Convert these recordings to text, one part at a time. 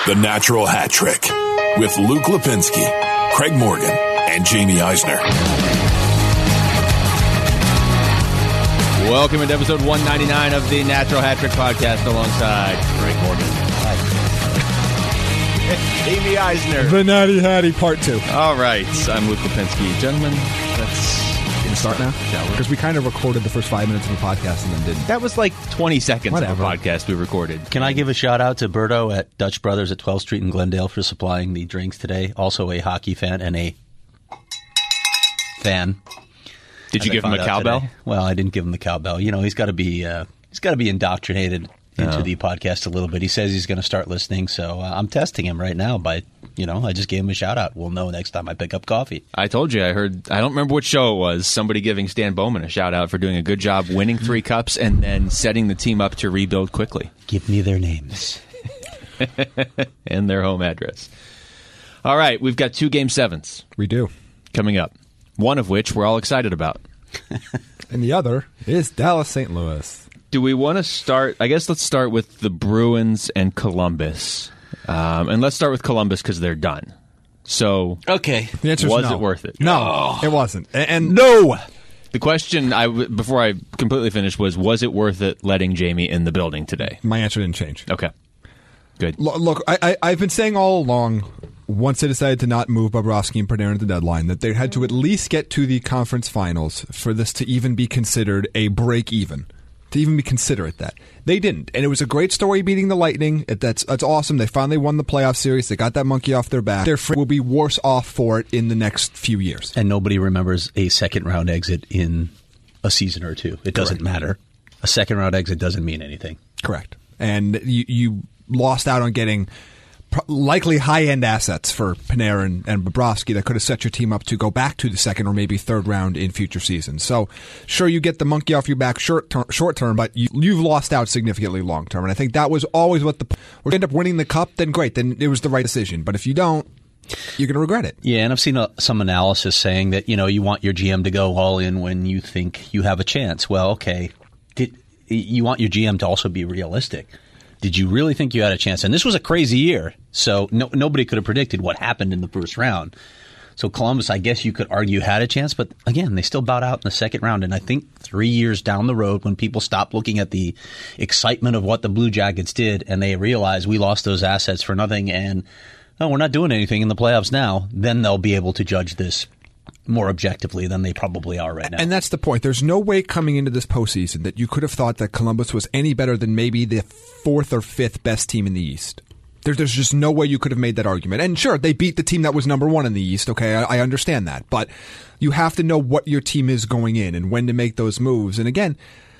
The Natural Hat Trick with Luke Lipinski, Craig Morgan, and Jamie Eisner. Welcome into episode 199 of the Natural Hat Trick podcast alongside Craig Morgan. Jamie Eisner. The Natty Hattie Part 2. All right, I'm Luke Lipinski. Gentlemen, let's start now? Because we kind of recorded the first 5 minutes of the podcast and then didn't. That was like 20 seconds Whatever. of a podcast we recorded. Can I give a shout out to Berto at Dutch Brothers at 12th Street in Glendale for supplying the drinks today? Also a hockey fan and a fan. Did you give him a cowbell? Today. Well, I didn't give him the cowbell. You know, he's got to be indoctrinated into the podcast a little bit. He says he's going to start listening, so I'm testing him right now by, I just gave him a shout out. We'll know next time I pick up coffee. I told you, I don't remember what show it was, somebody giving Stan Bowman a shout out for doing a good job winning 3 cups and then setting the team up to rebuild quickly. Give me their names. And their home address. All right, we've got 2 Game 7s. We do. Coming up. One of which we're all excited about. And the other is Dallas St. Louis. Do we want to start? I guess let's start with the Bruins and Columbus. And let's start with Columbus because they're done. So, okay. The answer is was no. it worth it? No, it wasn't. And no! The question, before I completely finished, was it worth it letting Jamie in the building today? My answer didn't change. Okay. Good. Look, I've been saying all along, once they decided to not move Bobrovsky and Panarin at the deadline, that they had to at least get to the conference finals for this to even be considered a break-even. To even be considerate that. They didn't. And it was a great story beating the Lightning. That's awesome. They finally won the playoff series. They got that monkey off their back. Their friend will be worse off for it in the next few years. And nobody remembers a second-round exit in a season or two. It doesn't matter. A second-round exit doesn't mean anything. Correct. And you lost out on getting likely high-end assets for Panarin and Bobrovsky that could have set your team up to go back to the second or maybe third round in future seasons. So, sure, you get the monkey off your back short term, but you've lost out significantly long term. And I think that was always what if you end up winning the cup, then great, then it was the right decision. But if you don't, you're going to regret it. Yeah, and I've seen some analysis saying that, you want your GM to go all in when you think you have a chance. Well, okay, you want your GM to also be realistic. Did you really think you had a chance? And this was a crazy year, so nobody could have predicted what happened in the first round. So Columbus, I guess you could argue, had a chance, but again, they still bowed out in the second round. And I think 3 years down the road, when people stop looking at the excitement of what the Blue Jackets did and they realize we lost those assets for nothing and we're not doing anything in the playoffs now, then they'll be able to judge this more objectively than they probably are right now. And that's the point. There's no way coming into this postseason that you could have thought that Columbus was any better than maybe the 4th or 5th best team in the East. There's just no way you could have made that argument. And sure, they beat the team that was number 1 in the East. Okay, I understand that. But you have to know what your team is going in and when to make those moves. And again,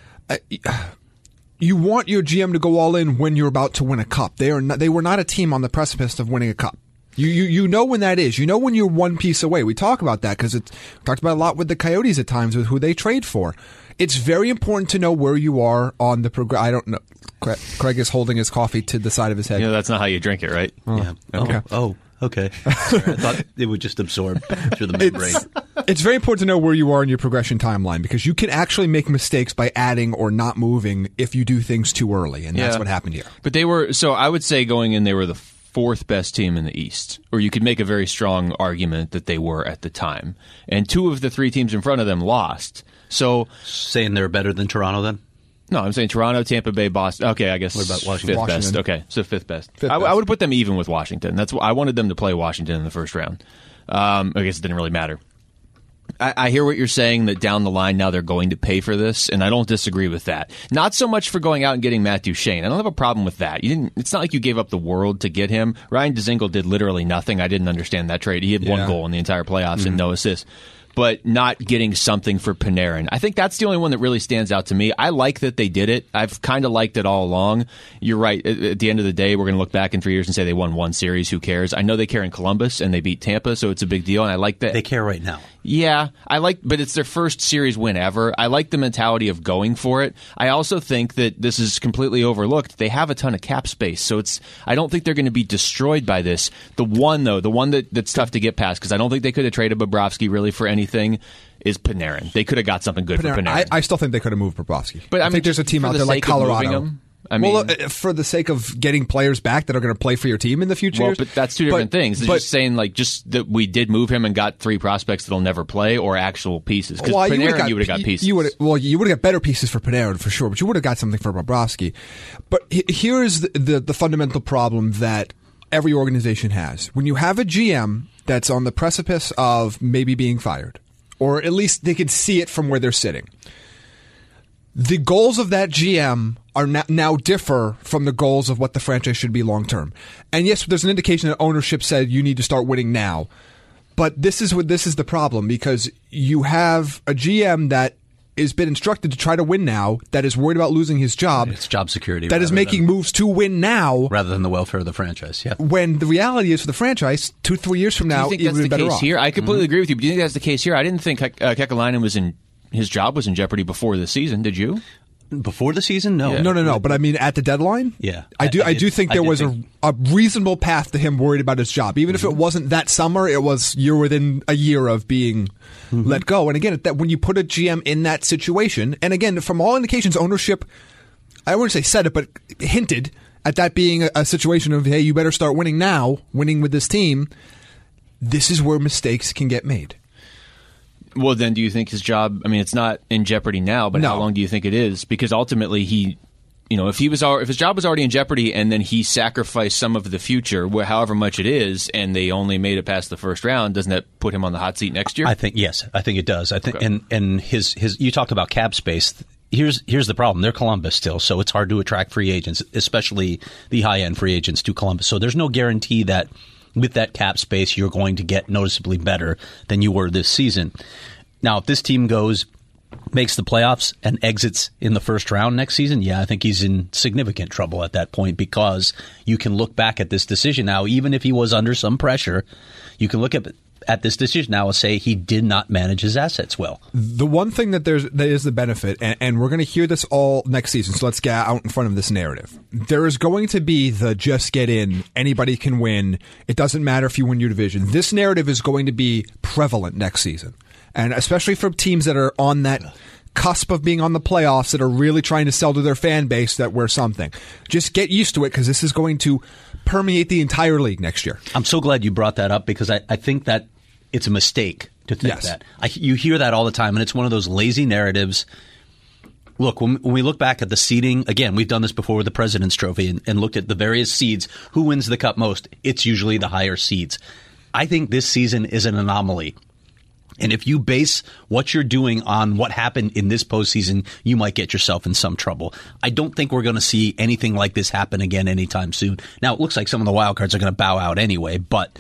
you want your GM to go all in when you're about to win a cup. They were not a team on the precipice of winning a cup. You know when that is. You know when you're one piece away. We talk about that because we talked about a lot with the Coyotes at times with who they trade for. It's very important to know where you are on the I don't know. Craig is holding his coffee to the side of his head. That's not how you drink it, right? Yeah. Okay. Okay. Sorry, I thought it would just absorb through the membrane. It's very important to know where you are in your progression timeline because you can actually make mistakes by adding or not moving if you do things too early, and that's what happened here. But I would say going in, they were the 4th best team in the East, or you could make a very strong argument that they were at the time. And 2 of the 3 teams in front of them lost. So saying they're better than Toronto then? No, I'm saying Toronto, Tampa Bay, Boston. Okay, I guess. What about Washington? 5th best. Okay, so 5th best. I would put them even with Washington. That's I wanted them to play Washington in the first round. I guess it didn't really matter. I hear what you're saying, that down the line now they're going to pay for this, and I don't disagree with that. Not so much for going out and getting Matt Duchene. I don't have a problem with that. It's not like you gave up the world to get him. Ryan Dzingel did literally nothing. I didn't understand that trade. He had 1 goal in the entire playoffs and no assists. But not getting something for Panarin. I think that's the only one that really stands out to me. I like that they did it. I've kind of liked it all along. You're right. At the end of the day, we're going to look back in 3 years and say they won 1 series. Who cares? I know they care in Columbus, and they beat Tampa, so it's a big deal, and I like that. They care right now. Yeah, but it's their first series win ever. I like the mentality of going for it. I also think that this is completely overlooked. They have a ton of cap space, so I don't think they're going to be destroyed by this. The one that's tough to get past, because I don't think they could have traded Bobrovsky really for anything, is Panarin. They could have got something good for Panarin. I still think they could have moved Bobrovsky. But I think there's a team out there like Colorado. I mean, for the sake of getting players back that are going to play for your team in the future. Well, but that's two different things. It's just saying, like, just that we did move him and got 3 prospects that'll never play, or actual pieces. Because Panarin, you would have got pieces. You would have got better pieces for Panarin for sure, but you would have got something for Bobrovsky. But here is the fundamental problem that every organization has. When you have a GM that's on the precipice of maybe being fired, or at least they can see it from where they're sitting, the goals of that GM are now differ from the goals of what the franchise should be long term. And yes, there's an indication that ownership said you need to start winning now. But this is the problem, because you have a GM that has been instructed to try to win now, that is worried about losing his job. It's job security. That is making moves to win now. Rather than the welfare of the franchise, yeah. When the reality is, for the franchise, 2-3 years from now, do you think that's the case here? I completely agree with you, but do you think that's the case here? I didn't think Kekalainen his job was in jeopardy before the season, did you? Before the season? No. Yeah. No. But I mean, at the deadline? Yeah. I do think there was a reasonable path to him worried about his job. Even if it wasn't that summer, it was you're within a year of being let go. And again, when you put a GM in that situation, and again, from all indications, ownership, I wouldn't say said it, but hinted at that being a situation of, hey, you better start winning now, winning with this team. This is where mistakes can get made. Well, then, do you think his job? I mean, it's not in jeopardy now, but how long do you think it is? Because ultimately, if his job was already in jeopardy, and then he sacrificed some of the future, however much it is, and they only made it past the first round, doesn't that put him on the hot seat next year? I think it does. I think, okay. and his you talked about cap space. Here's the problem. They're Columbus still, so it's hard to attract free agents, especially the high end free agents to Columbus. So there's no guarantee that with that cap space, you're going to get noticeably better than you were this season. Now, if this team makes the playoffs and exits in the first round next season, yeah, I think he's in significant trouble at that point, because you can look back at this decision now, even if he was under some pressure, you can look at this decision now and say he did not manage his assets well. The one thing that is the benefit, and we're going to hear this all next season, so let's get out in front of this narrative. There is going to be the just get in, anybody can win, it doesn't matter if you win your division. This narrative is going to be prevalent next season. And especially for teams that are on that cusp of being on the playoffs, that are really trying to sell to their fan base that we're something. Just get used to it, because this is going to permeate the entire league next year. I'm so glad you brought that up, because I think that it's a mistake to think that. You hear that all the time, and it's one of those lazy narratives. Look, when we look back at the seeding, again, we've done this before with the President's Trophy and looked at the various seeds. Who wins the cup most? It's usually the higher seeds. I think this season is an anomaly. And if you base what you're doing on what happened in this postseason, you might get yourself in some trouble. I don't think we're going to see anything like this happen again anytime soon. Now, it looks like some of the wild cards are going to bow out anyway, but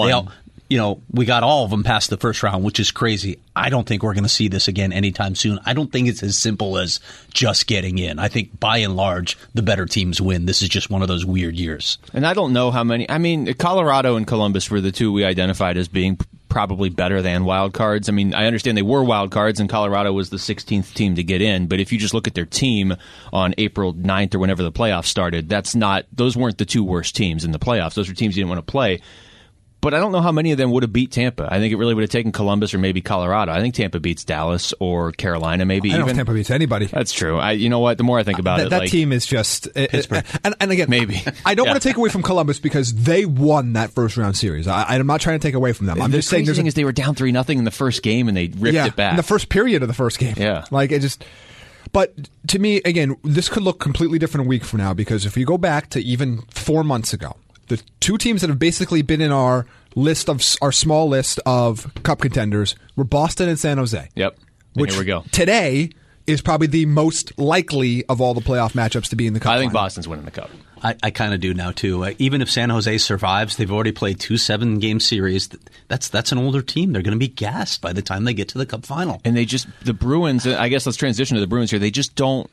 we got all of them past the first round, which is crazy. I don't think we're going to see this again anytime soon. I don't think it's as simple as just getting in. I think, by and large, the better teams win. This is just one of those weird years. And I don't know how many. I mean, Colorado and Columbus were the two we identified as being probably better than wild cards. I mean, I understand they were wild cards, and Colorado was the 16th team to get in. But if you just look at their team on April 9th or whenever the playoffs started, those weren't the two worst teams in the playoffs. Those were teams you didn't want to play. But I don't know how many of them would have beat Tampa. I think it really would have taken Columbus or maybe Colorado. I think Tampa beats Dallas or Carolina, maybe. I don't know if Tampa beats anybody. That's true. You know what? The more I think about it, that team is just Pittsburgh. And again, maybe. I don't want to take away from Columbus, because they won that first round series. I'm not trying to take away from them. I'm just saying. The thing is, they were down 3-0 in the first game and they ripped it back in the first period of the first game. Yeah, But to me, again, this could look completely different a week from now, because if you go back to even 4 months ago, the two teams that have basically been in our small list of cup contenders were Boston and San Jose. Yep. Which here we go. Today is probably the most likely of all the playoff matchups to be in the cup. I think Boston's winning the cup. I kind of do now too. Even if San Jose survives, they've already played 2 7-game series. That's an older team. They're going to be gassed by the time they get to the cup final. And the Bruins, I guess let's transition to the Bruins here. They just don't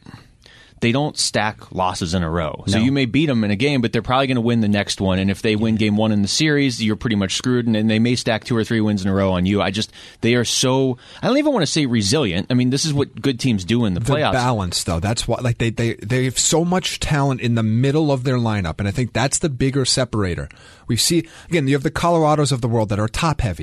stack losses in a row. So you may beat them in a game, but they're probably going to win the next one. And if they win game 1 in the series, you're pretty much screwed. And they may stack 2 or 3 wins in a row on you. They are so, I don't even want to say resilient. I mean, this is what good teams do in the playoffs. They're balanced, though. That's why, they have so much talent in the middle of their lineup. And I think that's the bigger separator. We see, again, you have the Colorados of the world that are top heavy.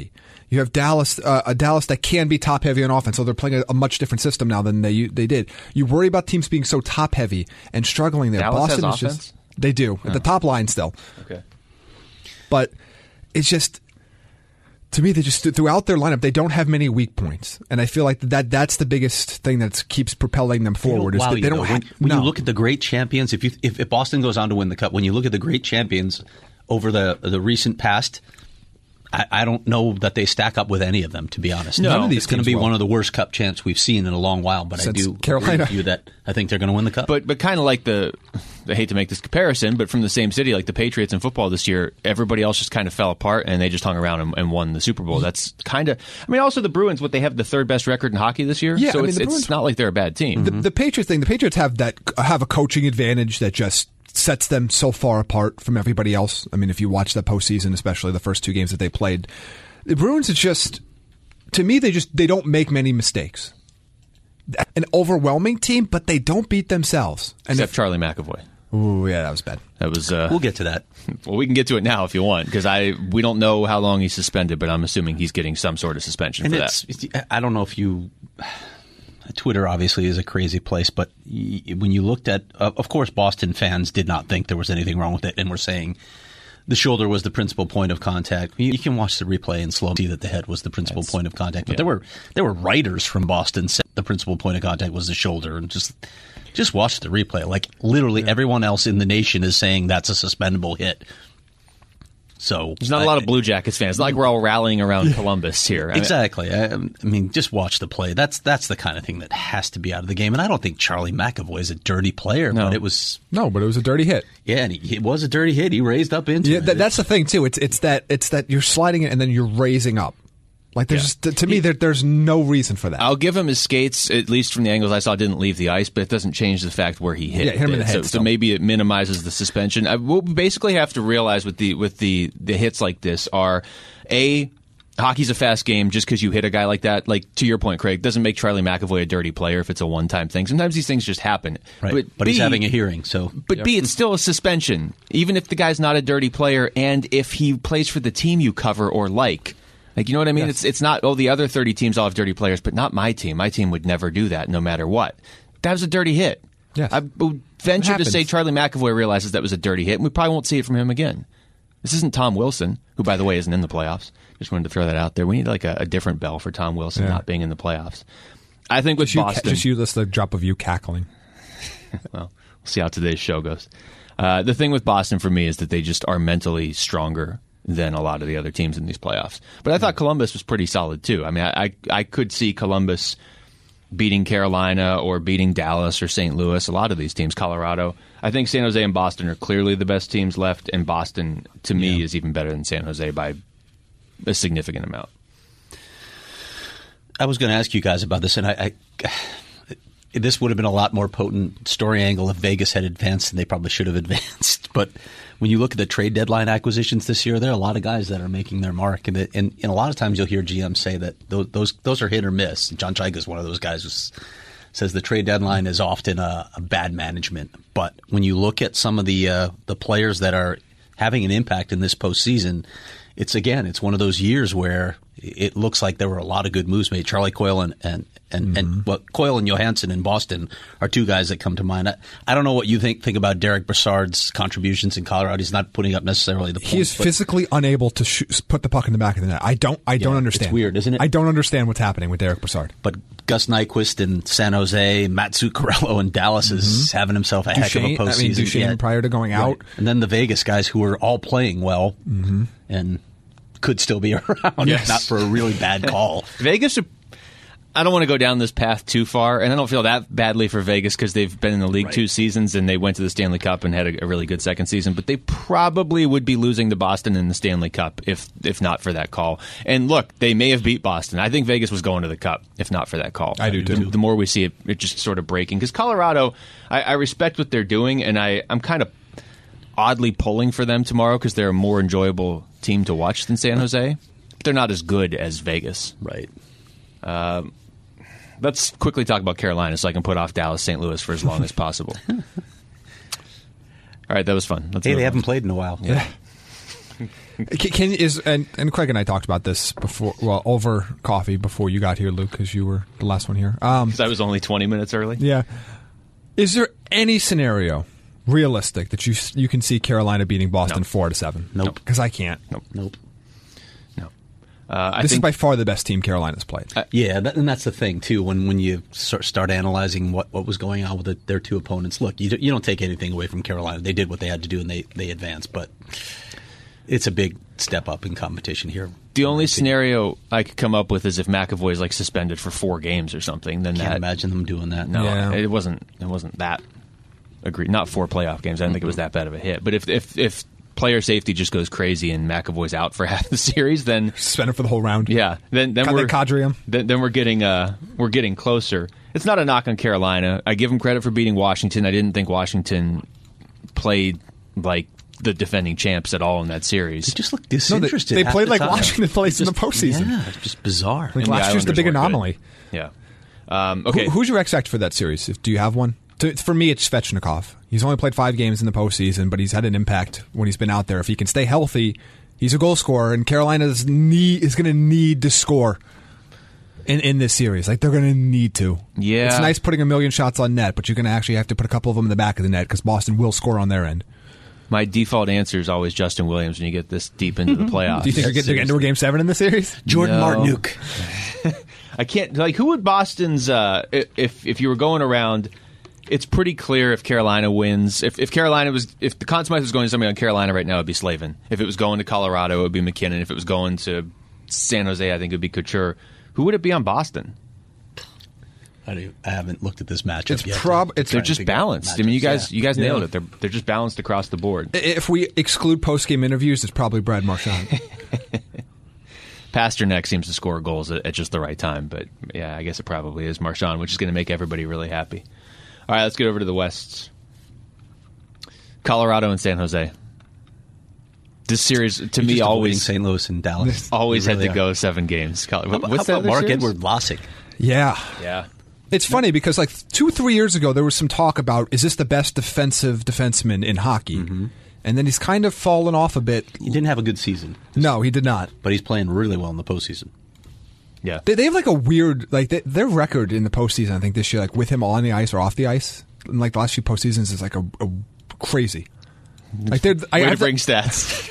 You have Dallas, a Dallas that can be top heavy on offense, so they're playing a much different system now than they did. You worry about teams being so top heavy and struggling there. Dallas Boston has is offense? just they do at the top line still. Okay, but it's just to me they just throughout their lineup they don't have many weak points, and I feel like that's the biggest thing that keeps propelling them forward. When you look at the great champions, if Boston goes on to win the Cup, when you look at the great champions over the recent past. I don't know that they stack up with any of them, to be honest. None of these it's going to be one of the worst Cup champs we've seen in a long while, but since I do Carolina. agree with you that I think they're going to win the Cup. But kind of like I hate to make this comparison, but from the same city, like the Patriots in football this year, everybody else just kind of fell apart, and they just hung around and won the Super Bowl. That's kind of, I mean, also the Bruins, they have the third best record in hockey this year, Yeah, so I mean, it's not like they're a bad team. The Patriots thing. The Patriots have a coaching advantage that just sets them so far apart from everybody else. I mean, if you watch the postseason, especially the first two games that they played. The Bruins, it's just, to me, they don't make many mistakes. An overwhelming team, but they don't beat themselves. And Except Charlie McAvoy. Ooh, yeah, that was bad. That was. We'll get to that. Well, we can get to it now if you want, because we don't know how long he's suspended, but I'm assuming he's getting some sort of suspension for that. I don't know if you. Twitter obviously is a crazy place, but when you looked at, of course, Boston fans did not think there was anything wrong with it, and were saying. The shoulder was the principal point of contact. You can watch the replay and slow see that the head was the principal point of contact. But there were writers from Boston said the principal point of contact was the shoulder, and just watch the replay. Like literally everyone else in the nation is saying that's a suspendable hit. So there's not a lot of Blue Jackets fans. It's not like we're all rallying around Columbus here. Exactly. I mean, just watch the play. That's the kind of thing that has to be out of the game. And I don't think Charlie McAvoy is a dirty player, but it was a dirty hit. Yeah, and it was a dirty hit. He raised up into it. That's the thing too. It's that you're sliding it and then you're raising up. Like to me, there's no reason for that. I'll give him his skates, at least from the angles I saw, didn't leave the ice, but it doesn't change the fact where he hit. Yeah, hit him in the head. So maybe it minimizes the suspension. What we basically have to realize with the hits like this are hockey's a fast game. Just because you hit a guy like that, like to your point, Craig, doesn't make Charlie McAvoy a dirty player if it's a one-time thing. Sometimes these things just happen. Right. But he's having a hearing, so. But B, it's still a suspension, even if the guy's not a dirty player, and if he plays for the team you cover or like. Like, you know what I mean? Yes. It's not, the other 30 teams all have dirty players, but not my team. My team would never do that, no matter what. That was a dirty hit. Yes. I would venture to say Charlie McAvoy realizes that was a dirty hit, and we probably won't see it from him again. This isn't Tom Wilson, who, by the way, isn't in the playoffs. Just wanted to throw that out there. We need like a different bell for Tom Wilson not being in the playoffs. I think with Boston... Just you list a drop of you cackling. Well, we'll see how today's show goes. The thing with Boston for me is that they just are mentally stronger than a lot of the other teams in these playoffs. But I thought Columbus was pretty solid, too. I mean, I could see Columbus beating Carolina or beating Dallas or St. Louis, a lot of these teams, Colorado. I think San Jose and Boston are clearly the best teams left, and Boston, to me, is even better than San Jose by a significant amount. I was going to ask you guys about this, and this would have been a lot more potent story angle if Vegas had advanced, and they probably should have advanced. But when you look at the trade deadline acquisitions this year, there are a lot of guys that are making their mark, and a lot of times you'll hear GMs say that those are hit or miss. John Chaika is one of those guys who says the trade deadline is often a bad management. But when you look at some of the players that are having an impact in this postseason, it's one of those years where it looks like there were a lot of good moves made. Charlie Coyle and Coyle and Johansson in Boston are two guys that come to mind. I don't know what you think about Derek Brassard's contributions in Colorado. He's not putting up necessarily the points. He is physically unable to put the puck in the back of the net. I don't understand. It's weird, isn't it? I don't understand what's happening with Derek Brassard. But Gus Nyquist in San Jose, Matt Zuccarello in Dallas is having himself a heck of a postseason. Duchesne prior to going out. And then the Vegas guys who are all playing well and could still be around if not for a really bad call. Vegas, I don't want to go down this path too far, and I don't feel that badly for Vegas because they've been in the league 2 seasons and they went to the Stanley Cup and had a really good second season, but they probably would be losing to Boston in the Stanley Cup if not for that call. And look, they may have beat Boston. I think Vegas was going to the Cup if not for that call. I do too. The more we see it just sort of breaking, because Colorado, I respect what they're doing, and I'm kind of oddly pulling for them tomorrow because they're a more enjoyable team to watch than San Jose. They're not as good as Vegas. Right. Let's quickly talk about Carolina so I can put off Dallas, St. Louis for as long as possible. All right, that was fun. They haven't played in a while. Yeah. And Craig and I talked about this before, well, over coffee before you got here, Luke, because you were the last one here. Because I was only 20 minutes early. Yeah. Is there any scenario realistic that you can see Carolina beating Boston 4-7? Nope. Because I can't. Nope. This is by far the best team Carolina's played. And that's the thing too. When you start analyzing what was going on with their two opponents, look, you don't take anything away from Carolina. They did what they had to do and they advanced, but it's a big step up in competition here. The only scenario I could come up with is if McAvoy is like suspended for 4 games or something. Then Can't imagine them doing that. No, Yeah. it wasn't that. Agreed. Not 4 playoff games. I didn't think it was that bad of a hit. But if player safety just goes crazy and McAvoy's out for half the series, then Suspended for the whole round. yeah, then we're cadre him. Then we're getting closer. It's not a knock on Carolina. I give them credit for beating Washington. I didn't think Washington played like the defending champs at all in that series. They just look disinterested. They played like time. Washington plays in the postseason. Yeah, it's just bizarre. Like last year's the big anomaly. Yeah. Okay. Who's your X factor for that series? Do you have one? For me, it's Svechnikov. He's only played 5 games in the postseason, but he's had an impact when he's been out there. If he can stay healthy, he's a goal scorer, and Carolina is going to need to score in this series. Like, they're going to need to. Yeah. It's nice putting a million shots on net, but you're going to actually have to put a couple of them in the back of the net because Boston will score on their end. My default answer is always Justin Williams when you get this deep into the playoffs. Do you think they're getting into a Game 7 in the series? Jordan Martinook. I can't. Like, who would Boston's? If you were going around, it's pretty clear if Carolina wins. If the Conn Smythe was going to somebody on Carolina right now, it'd be Slavin. If it was going to Colorado, it would be McKinnon. If it was going to San Jose, I think it would be Couture. Who would it be on Boston? I haven't looked at this matchup yet. They're just balanced. I mean, you guys nailed it. They're just balanced across the board. If we exclude post-game interviews, it's probably Brad Marchand. Pasternak seems to score goals at just the right time, but yeah, I guess it probably is Marchand, which is going to make everybody really happy. All right, let's get over to the West. Colorado and San Jose. This series, to me, always St. Louis and Dallas. Always really had to go 7 games. What's that? That Mark series? Edward Vlasic. Yeah. Yeah. It's funny because like 2 or 3 years ago, there was some talk about, is this the best defensive defenseman in hockey? Mm-hmm. And then he's kind of fallen off a bit. He didn't have a good season. No, he did not. But he's playing really well in the postseason. Yeah. They have like a weird, like their record in the postseason, I think this year, like with him on the ice or off the ice, in like the last few postseasons is like a crazy. Like Way to bring stats.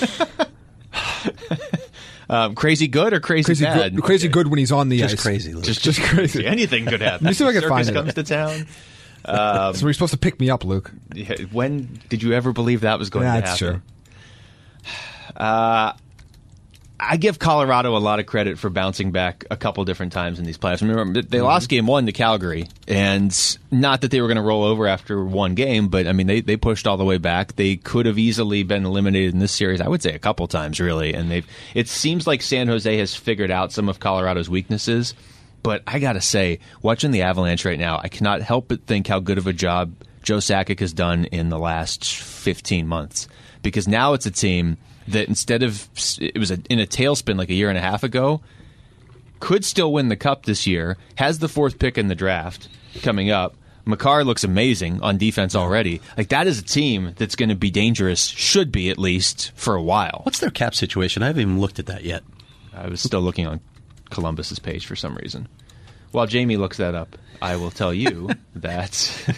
Crazy good or crazy bad? Crazy good when he's on the just ice. Crazy. Just crazy. Anything could happen. Let me see if I can Circus find it. comes to town. So you're supposed to pick me up, Luke. When did you ever believe that was going to happen? That's true. I give Colorado a lot of credit for bouncing back a couple different times in these playoffs. Remember, they lost Game 1 to Calgary, and not that they were going to roll over after one game, but I mean, they pushed all the way back. They could have easily been eliminated in this series, I would say a couple times, really. And it seems like San Jose has figured out some of Colorado's weaknesses, but I got to say, watching the Avalanche right now, I cannot help but think how good of a job Joe Sakic has done in the last 15 months. Because now it's a team that instead of it was in a tailspin like a year and a half ago, could still win the Cup this year, has the 4th pick in the draft coming up. Makar looks amazing on defense already. Like, that is a team that's going to be dangerous, should be at least, for a while. What's their cap situation? I haven't even looked at that yet. I was still looking on Columbus's page for some reason. While Jamie looks that up, I will tell you that...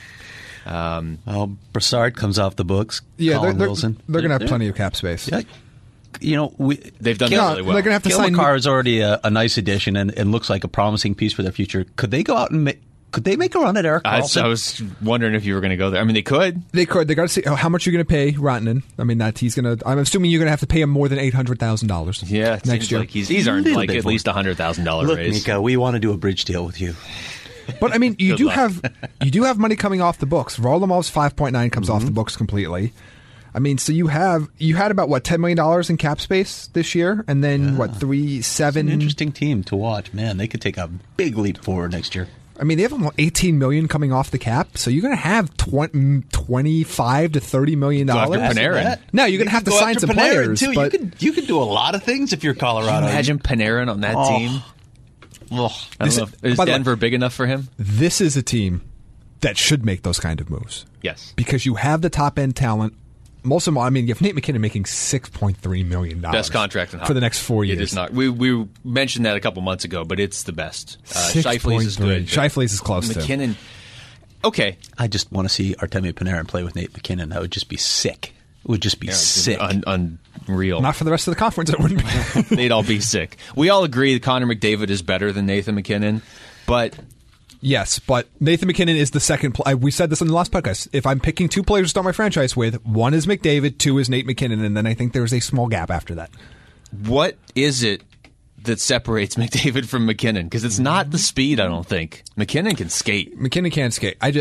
Brassard comes off the books. Yeah, Colin they're Wilson. going to have plenty of cap space. Yeah, they've done that really well. They're going to have to Cale sign. Makar is already a nice addition and looks like a promising piece for their future. Could they go out and could they make a run at Erik Karlsson? I was wondering if you were going to go there. I mean, they could. They could. They got to see how much you're going to pay Rantanen. I mean, that he's going to. I'm assuming you're going to have to pay him more than $800,000. Yeah, next year. Like he's earned like at least $100,000 Look, raise. Mika, we want to do a bridge deal with you. But I mean, you do luck. have money coming off the books. Varlamov's 5.9 comes off the books completely. I mean, so you had about what $10 million in cap space this year, and then what 3.7. An interesting team to watch. Man, they could take a big leap forward next year. I mean, they have almost $18 million coming off the cap, so you're going to have $25 to $30 million. Go after Panarin. No, you're going to have to sign some players. Too. But You could do a lot of things if you're Colorado. Imagine Panarin on that team. I don't know. Is Denver big enough for him? this is a team that should make those kind of moves. Yes. Because you have the top end talent most of them, I mean, you have Nate McKinnon making $6.3 million. Best contract in hockey for the next 4 years. It is not. We mentioned that a couple months ago, but it's the best. Scheifele's is good. Scheifele's is close to McKinnon. Okay. I just want to see Artemi Panarin play with Nate McKinnon. That would just be sick. It would just be sick. Unreal. Not for the rest of the conference, it wouldn't be. They'd all be sick. We all agree that Connor McDavid is better than Nathan McKinnon, but... Yes, but Nathan McKinnon is the second. We said this on the last podcast. If I'm picking two players to start my franchise with, one is McDavid, two is Nate McKinnon, and then I think there's a small gap after that. What is it that separates McDavid from McKinnon? Because it's not the speed, I don't think. McKinnon can skate. McKinnon can't skate. I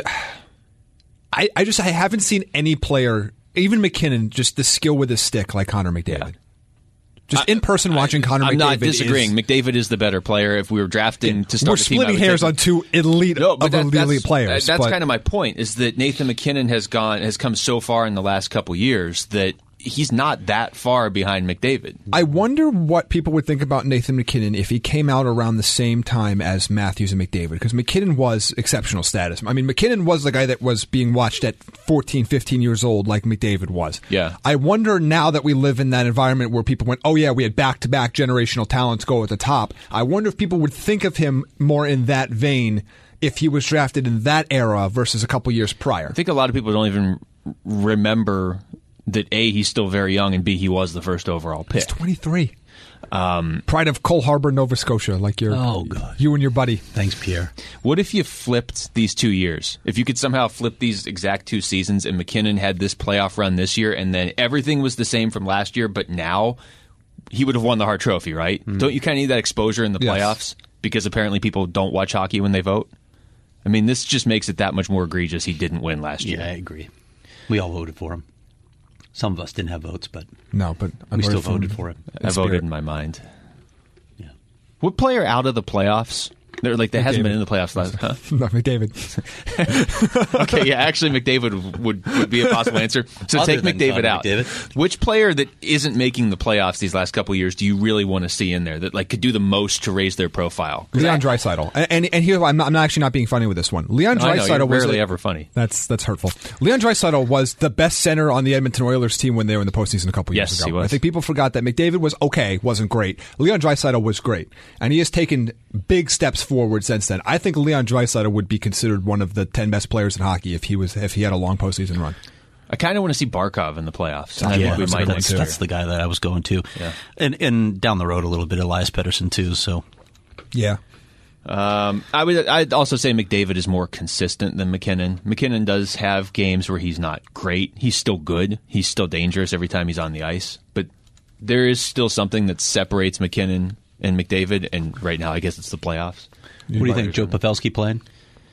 haven't seen any player, even McKinnon, just the skill with his stick like Connor McDavid. Yeah. Just in person watching Connor McDavid. I'm not disagreeing. McDavid is the better player. If we were drafting to start we're a team, splitting hairs on two elite players. That's kind of my point, is that Nathan McKinnon has come so far in the last couple years that he's not that far behind McDavid. I wonder what people would think about Nathan McKinnon if he came out around the same time as Matthews and McDavid, because McKinnon was exceptional status. I mean, McKinnon was the guy that was being watched at 14, 15 years old like McDavid was. Yeah. I wonder now that we live in that environment where people went, oh yeah, we had back-to-back generational talents go at the top. I wonder if people would think of him more in that vein if he was drafted in that era versus a couple years prior. I think a lot of people don't even remember that A, he's still very young, and B, he was the first overall pick. He's 23. Pride of Cole Harbour, Nova Scotia, like you and your buddy. Thanks, Pierre. What if you flipped these 2 years? If you could somehow flip these exact 2 seasons, and McKinnon had this playoff run this year, and then everything was the same from last year, but now he would have won the Hart Trophy, right? Mm. Don't you kind of need that exposure in the playoffs? Because apparently people don't watch hockey when they vote? I mean, this just makes it that much more egregious he didn't win last year. Yeah, I agree. We all voted for him. Some of us didn't have votes, but we still voted for him. I voted in my mind. Yeah. What player out of the playoffs? They hasn't been in the playoffs last. Huh? No, McDavid. Okay, yeah, actually, McDavid would be a possible answer. So Other take McDavid out. McDavid. Which player that isn't making the playoffs these last couple of years do you really want to see in there that could do the most to raise their profile? Leon Draisaitl, and here I'm not actually not being funny with this one. Leon Draisaitl was rarely ever funny. That's hurtful. Leon Draisaitl was the best center on the Edmonton Oilers team when they were in the postseason a couple years ago. He was. I think people forgot that McDavid was okay, wasn't great. Leon Draisaitl was great, and he has taken big steps forward since then. I think Leon Draisaitl would be considered one of the 10 best players in hockey if he had a long postseason run. I kind of want to see Barkov in the playoffs. I think we might. That's the guy that I was going to. Yeah. And down the road a little bit, Elias Pettersson too. So yeah. I'd also say McDavid is more consistent than McKinnon. McKinnon does have games where he's not great. He's still good. He's still dangerous every time he's on the ice. But there is still something that separates McKinnon and McDavid, and right now I guess it's the playoffs. What do you think, Joe Pavelski playing?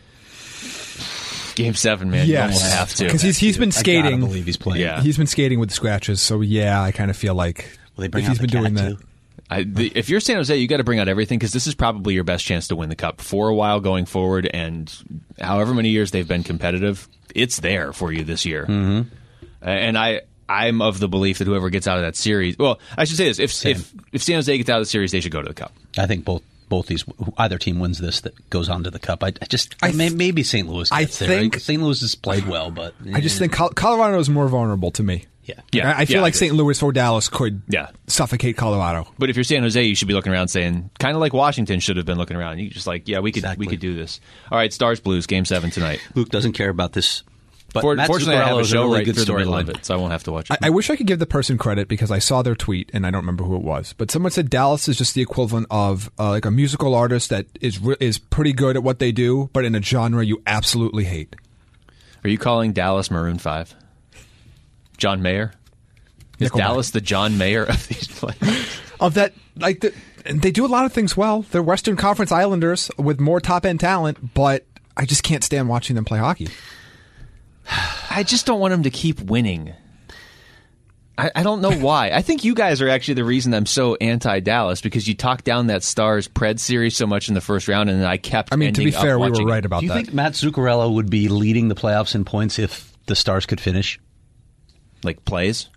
Game 7, man. Yes. You almost have to. Because he's been skating. I gotta believe he's playing. Yeah. He's been skating with the scratches, so yeah, I kind of feel like if he's been doing that. If you're San Jose, you got to bring out everything, because this is probably your best chance to win the Cup for a while going forward, and however many years they've been competitive, it's there for you this year. Mm-hmm. And I'm of the belief that whoever gets out of that series, well, I should say this: if San Jose gets out of the series, they should go to the Cup. I think both these, either team wins this that goes on to the Cup. Maybe St. Louis gets there. Right? St. Louis has played well, but I just think Colorado is more vulnerable to me. Yeah. I feel like St. Louis or Dallas could suffocate Colorado. But if you're San Jose, you should be looking around saying, kind of like Washington should have been looking around. You just we could do this. All right, Stars Blues, Game 7 tonight. Luke doesn't care about this. But fortunately, I have a show right through the middle of storyline, it, so I won't have to watch it. I wish I could give the person credit because I saw their tweet and I don't remember who it was. But someone said Dallas is just the equivalent of like a musical artist that is pretty good at what they do, but in a genre you absolutely hate. Are you calling Dallas Maroon 5? John Mayer? Is Dallas the John Mayer of these players? Of that, they do a lot of things well. They're Western Conference Islanders with more top-end talent, but I just can't stand watching them play hockey. I just don't want them to keep winning. I don't know why. I think you guys are actually the reason I'm so anti-Dallas, because you talked down that Stars-Pred series so much in the first round, and then I kept ending up watching it. To be fair, we were right about that. Do you think Matt Zuccarello would be leading the playoffs in points if the Stars could finish? Like plays?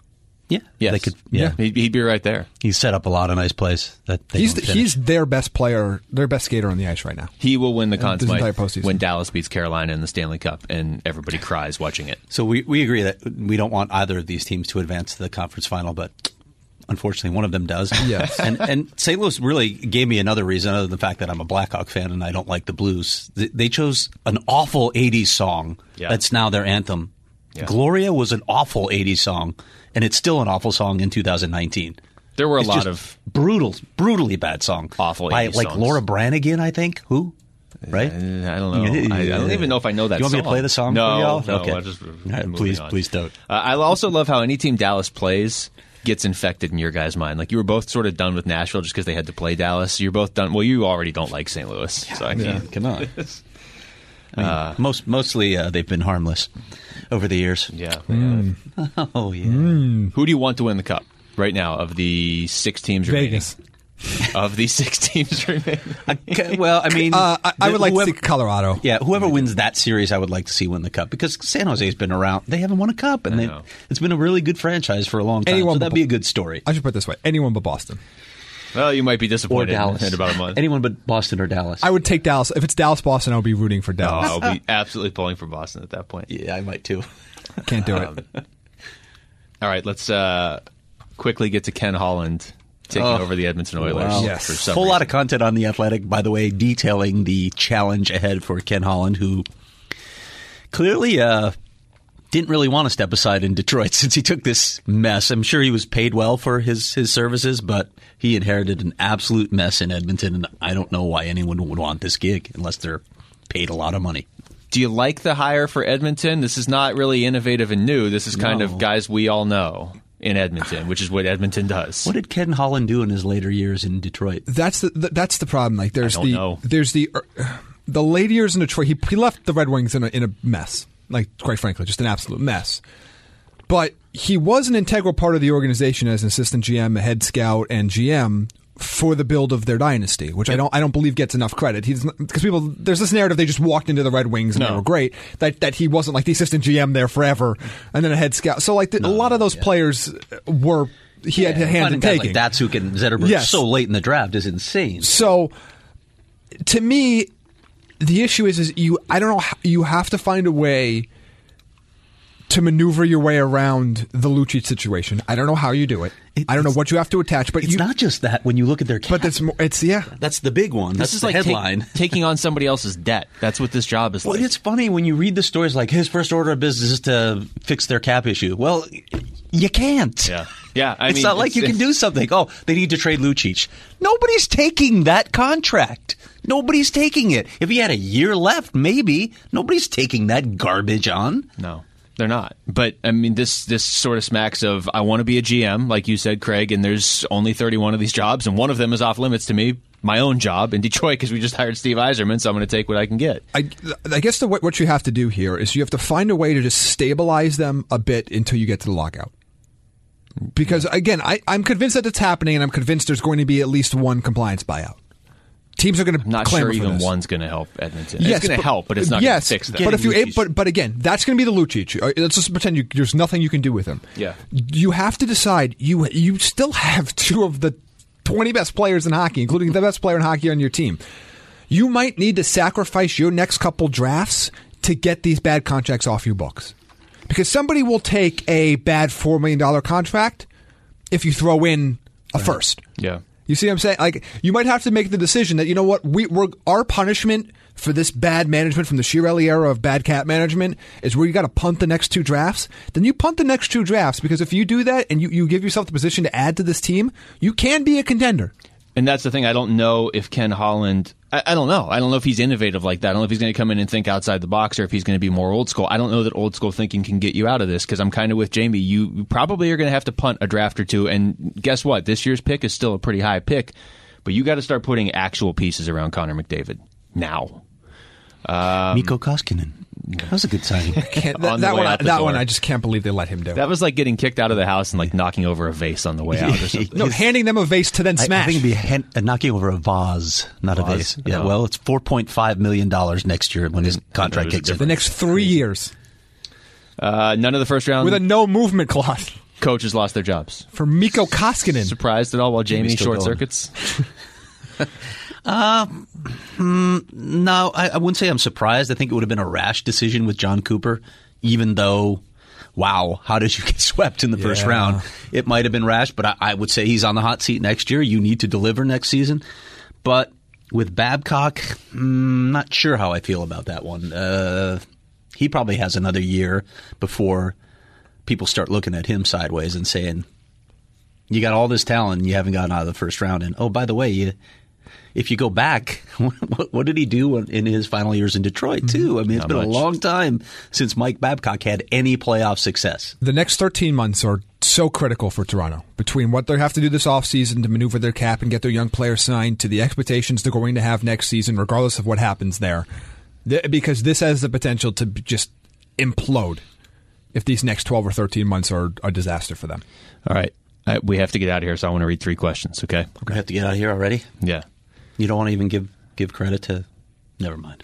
Yeah, Yes. they could. Yeah, He'd be right there. He's set up a lot of nice plays that they don't finish. He's their best player, their best skater on the ice right now. He will win the Conn this entire Smythe postseason. when Dallas beats Carolina in the Stanley Cup, and everybody cries watching it. So we agree that we don't want either of these teams to advance to the conference final, but unfortunately one of them does. Yes. And St. Louis really gave me another reason other than the fact that I'm a Blackhawk fan and I don't like the Blues. They chose an awful 80s song that's now their anthem. Yeah. Gloria was an awful 80s song, and it's still an awful song in 2019. There were a lot of brutally bad song. Awful 80s by like songs. Laura Branigan, I think. Who? Right? I don't know. I don't even know if I know that song. You want me to play the song for y'all? No, okay. I'll just Please don't. I also love how any team Dallas plays gets infected in your guys' mind. Like, you were both sort of done with Nashville just because they had to play Dallas. You're both done. Well, you already don't like St. Louis. So I can't. Come on. Mostly they've been harmless over the years. Yeah. Oh, yeah. Who do you want to win the Cup right now of the 6 teams remaining? Vegas. Of the 6 teams remaining? Well, I mean... I would like to see Colorado. Yeah, whoever wins that series, I would like to see win the Cup. Because San Jose's been around. They haven't won a Cup. And it's been a really good franchise for a long time. So that'd be a good story. I should put it this way. Anyone but Boston. Well, you might be disappointed Or Dallas. in about a month. Anyone but Boston or Dallas. I would take Dallas. If it's Dallas-Boston, I would be rooting for Dallas. I'll be absolutely pulling for Boston at that point. Yeah, I might too. Can't do it. All right, let's quickly get to Ken Holland taking over the Edmonton Oilers. Wow. Yes. For some Whole reason. lot of content on The Athletic, by the way, detailing the challenge ahead for Ken Holland, who clearly didn't really want to step aside in Detroit since he took this mess. I'm sure he was paid well for his services, but he inherited an absolute mess in Edmonton, and I don't know why anyone would want this gig unless they're paid a lot of money. Do you like the hire for Edmonton? This is not really innovative and new. This is kind of guys we all know in Edmonton, which is what Edmonton does. What did Ken Holland do in his later years in Detroit? That's the problem. Like there's the later years in Detroit. He left the Red Wings in a mess. Like, quite frankly, just an absolute mess. But he was an integral part of the organization as an assistant GM, a head scout, and GM for the build of their dynasty, which I don't believe gets enough credit. Because there's this narrative they just walked into the Red Wings and they were great. That he wasn't like the assistant GM there forever and then a head scout. So like a lot of those players were he had hand in taking. Like Datsuk and Zetterberg so late in the draft is insane. So to me, the issue is I don't know. You have to find a way to maneuver your way around the Lucic situation. I don't know how you do it. I don't know what you have to attach, but it's not just that when you look at their cap. But that's the big one. That's is the like headline. Taking on somebody else's debt. That's what this job is like. Well, it's funny when you read the stories like his first order of business is to fix their cap issue. Well, you can't. Yeah. It's not like you can do something. Oh, they need to trade Lucic. Nobody's taking that contract. Nobody's taking it. If he had a year left, maybe. Nobody's taking that garbage on. No. They're not. But, I mean, this sort of smacks of, I want to be a GM, like you said, Craig, and there's only 31 of these jobs, and one of them is off limits to me, my own job in Detroit, because we just hired Steve Yzerman, so I'm going to take what I can get. I guess what you have to do here is you have to find a way to just stabilize them a bit until you get to the lockout. Because, again, I'm convinced that it's happening, and I'm convinced there's going to be at least one compliance buyout. Teams are going to not clamor sure for even this. one's going to help Edmonton. Yes, it's going to help, but it's not going to fix that. But if you, but again, that's going to be the Lucic. Let's just pretend there's nothing you can do with him. Yeah, you have to decide. You still have 2 of the 20 best players in hockey, including the best player in hockey on your team. You might need to sacrifice your next couple drafts to get these bad contracts off your books, because somebody will take a bad $4 million contract if you throw in a first. Yeah. You see what I'm saying? Like, you might have to make the decision that, you know what, our punishment for this bad management from the Chiarelli era of bad cap management is where you got to punt the next 2 drafts. Then you punt the next 2 drafts, because if you do that and you give yourself the position to add to this team, you can be a contender. And that's the thing. I don't know if Ken Holland... I don't know. I don't know if he's innovative like that. I don't know if he's going to come in and think outside the box, or if he's going to be more old school. I don't know that old school thinking can get you out of this, because I'm kind of with Jamie. You probably are going to have to punt a draft or 2. And guess what? This year's pick is still a pretty high pick. But you got to start putting actual pieces around Connor McDavid now. Mikko Koskinen. That was a good signing. That one, I just can't believe they let him do. That was like getting kicked out of the house and like knocking over a vase on the way out or something. No, handing them a vase to then smash. I think it'd be knocking over a vase, not a vase. Yeah, no. well, it's $4.5 million next year when his contract kicks in. The next 3 years. None of the first round. With a no movement clause. coaches lost their jobs. For Mikko Koskinen. Surprised at all while Jamie still short going. circuits? No, I wouldn't say I'm surprised. I think it would have been a rash decision with John Cooper, even though, wow, how did you get swept in the first round? It might have been rash, but I would say he's on the hot seat next year. You need to deliver next season. But with Babcock, not sure how I feel about that one. He probably has another year before people start looking at him sideways and saying, you got all this talent and you haven't gotten out of the first round. And, oh, by the way, if you go back, what did he do in his final years in Detroit, too? I mean, it's been a long time since Mike Babcock had any playoff success. The next 13 months are so critical for Toronto, between what they have to do this offseason to maneuver their cap and get their young players signed to the expectations they're going to have next season, regardless of what happens there. Because this has the potential to just implode if these next 12 or 13 months are a disaster for them. All right. We have to get out of here, so I want to read 3 questions, okay? We have to get out of here already? Yeah. You don't want to even give credit to... Never mind.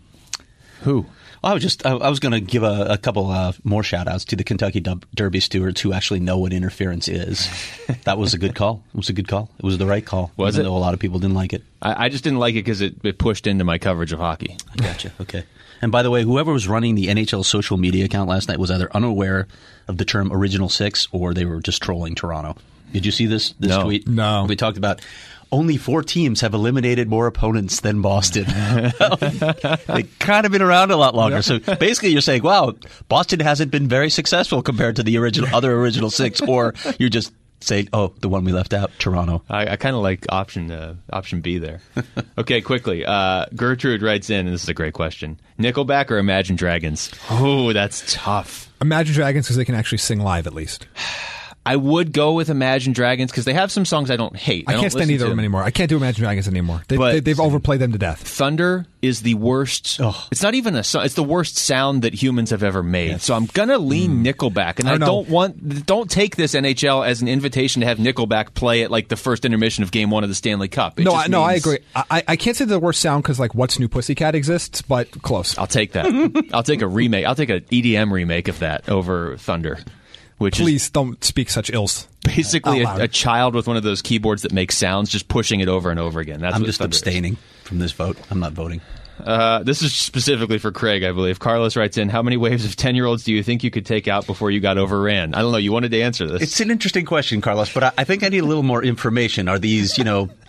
Who? Well, I was going to give a couple more shout-outs to the Kentucky Derby stewards who actually know what interference is. That was a good call. It was a good call. It was the right call. Was even it? Though a lot of people didn't like it. I just didn't like it because it pushed into my coverage of hockey. I gotcha. Okay. And by the way, whoever was running the NHL social media account last night was either unaware of the term Original Six or they were just trolling Toronto. Did you see this No. tweet? No. We talked about only 4 teams have eliminated more opponents than Boston. They've kind of been around a lot longer. Yep. So basically you're saying, wow, Boston hasn't been very successful compared to the other original 6, or you're just saying, oh, the one we left out, Toronto. I kind of like option B there. Okay, quickly. Gertrude writes in, and this is a great question. Nickelback or Imagine Dragons? Oh, that's tough. Imagine Dragons because they can actually sing live at least. I would go with Imagine Dragons because they have some songs I don't hate. I can't stand either of them anymore. I can't do Imagine Dragons anymore. They've overplayed them to death. Thunder is the worst. It's not even a song. It's the worst sound that humans have ever made. Yes. So I'm gonna lean Nickelback, and I don't take this NHL as an invitation to have Nickelback play at like the first intermission of Game 1 of the Stanley Cup. I agree. I can't say the worst sound because like What's New Pussycat exists, but close. I'll take that. I'll take a remake. I'll take an EDM remake of that over Thunder. Please don't speak such ills. Basically, a child with one of those keyboards that makes sounds, just pushing it over and over again. I'm just abstaining from this vote. I'm not voting. This is specifically for Craig, I believe. Carlos writes in, how many waves of 10-year-olds do you think you could take out before you got overran? I don't know. You wanted to answer this. It's an interesting question, Carlos, but I think I need a little more information. Are these,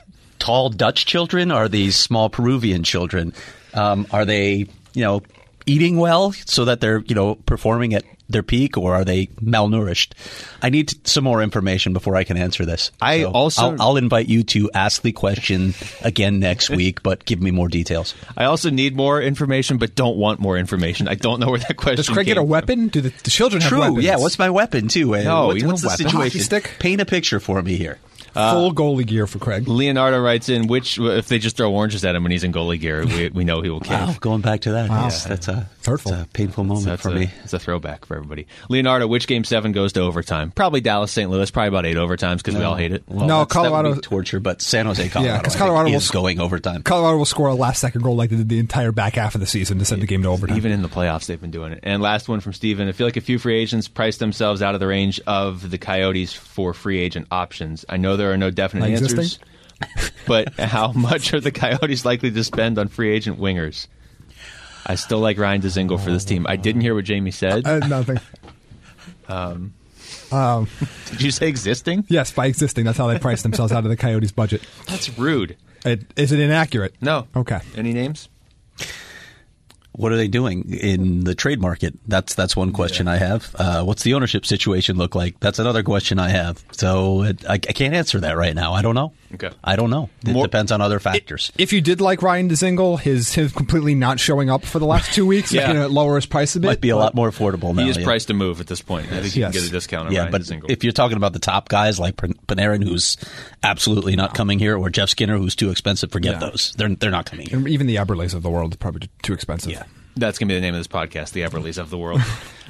tall Dutch children? Are these small Peruvian children? Are they, eating well so that they're, performing at their peak, or are they malnourished? I need some more information before I can answer this. I'll invite you to ask the question again next week, but give me more details. I also need more information, but don't want more information. I don't know where that question Does Craig get a weapon? Do the children have weapons? Yeah. What's my weapon too? What's the situation? Hockey stick? Paint a picture for me here. Full goalie gear for Craig. Leonardo writes in, if they just throw oranges at him when he's in goalie gear, we know he will cave. Wow, going back to that. Wow. Yes, that's hurtful. That's a painful moment for me. It's a throwback for everybody. Leonardo, which Game 7 goes to overtime? Probably Dallas, St. Louis. Probably about 8 overtimes because we all hate it. Well, no, Colorado that would be torture, but San Jose, Colorado, because Colorado is going overtime. Colorado will score a last-second goal like they did the entire back half of the season to send the game to overtime. Even in the playoffs, they've been doing it. And last one from Steven. I feel like a few free agents priced themselves out of the range of the Coyotes for free agent options. I know there are no definite answers. But how much are the Coyotes likely to spend on free agent wingers? I still like Ryan Dzingel for this team. I didn't hear what Jamie said. Nothing. Did you say existing? Yes, by existing. That's how they price themselves out of the Coyotes' budget. That's rude. Is it inaccurate? No. Okay. Any names? What are they doing in the trade market? That's one question I have. What's the ownership situation look like? That's another question I have. So I can't answer that right now. I don't know. Okay. I don't know. It depends on other factors. If you did like Ryan Dzingel, his completely not showing up for the last 2 weeks, making it lower his price a bit. Might be a lot more affordable now. He is priced to move at this point. I think you can get a discount on Ryan Dzingel. If you're talking about the top guys like Panarin, who's absolutely not coming here, or Jeff Skinner, who's too expensive, forget those. They're not coming here. And even the Eberles of the world are probably too expensive. Yeah. That's going to be the name of this podcast, the Everleys of the world.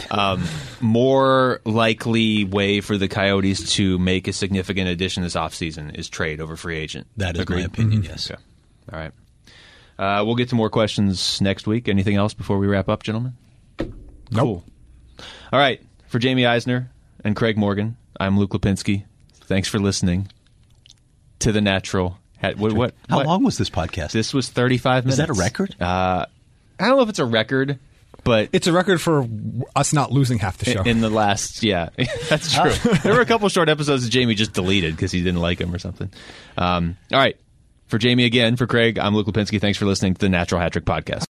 More likely way for the Coyotes to make a significant addition this offseason is trade over free agent. That is my opinion, yes. Okay. All right. We'll get to more questions next week. Anything else before we wrap up, gentlemen? Nope. Cool. All right. For Jamie Eisner and Craig Morgan, I'm Luke Lipinski. Thanks for listening to The Natural. How long was this podcast? This was 35 minutes. Is that a record? I don't know if it's a record, but it's a record for us not losing half the show. In the last, yeah, that's true. There were a couple short episodes that Jamie just deleted because he didn't like them or something. All right. For Jamie again, for Craig, I'm Luke Lipinski. Thanks for listening to the Natural Hat Trick Podcast.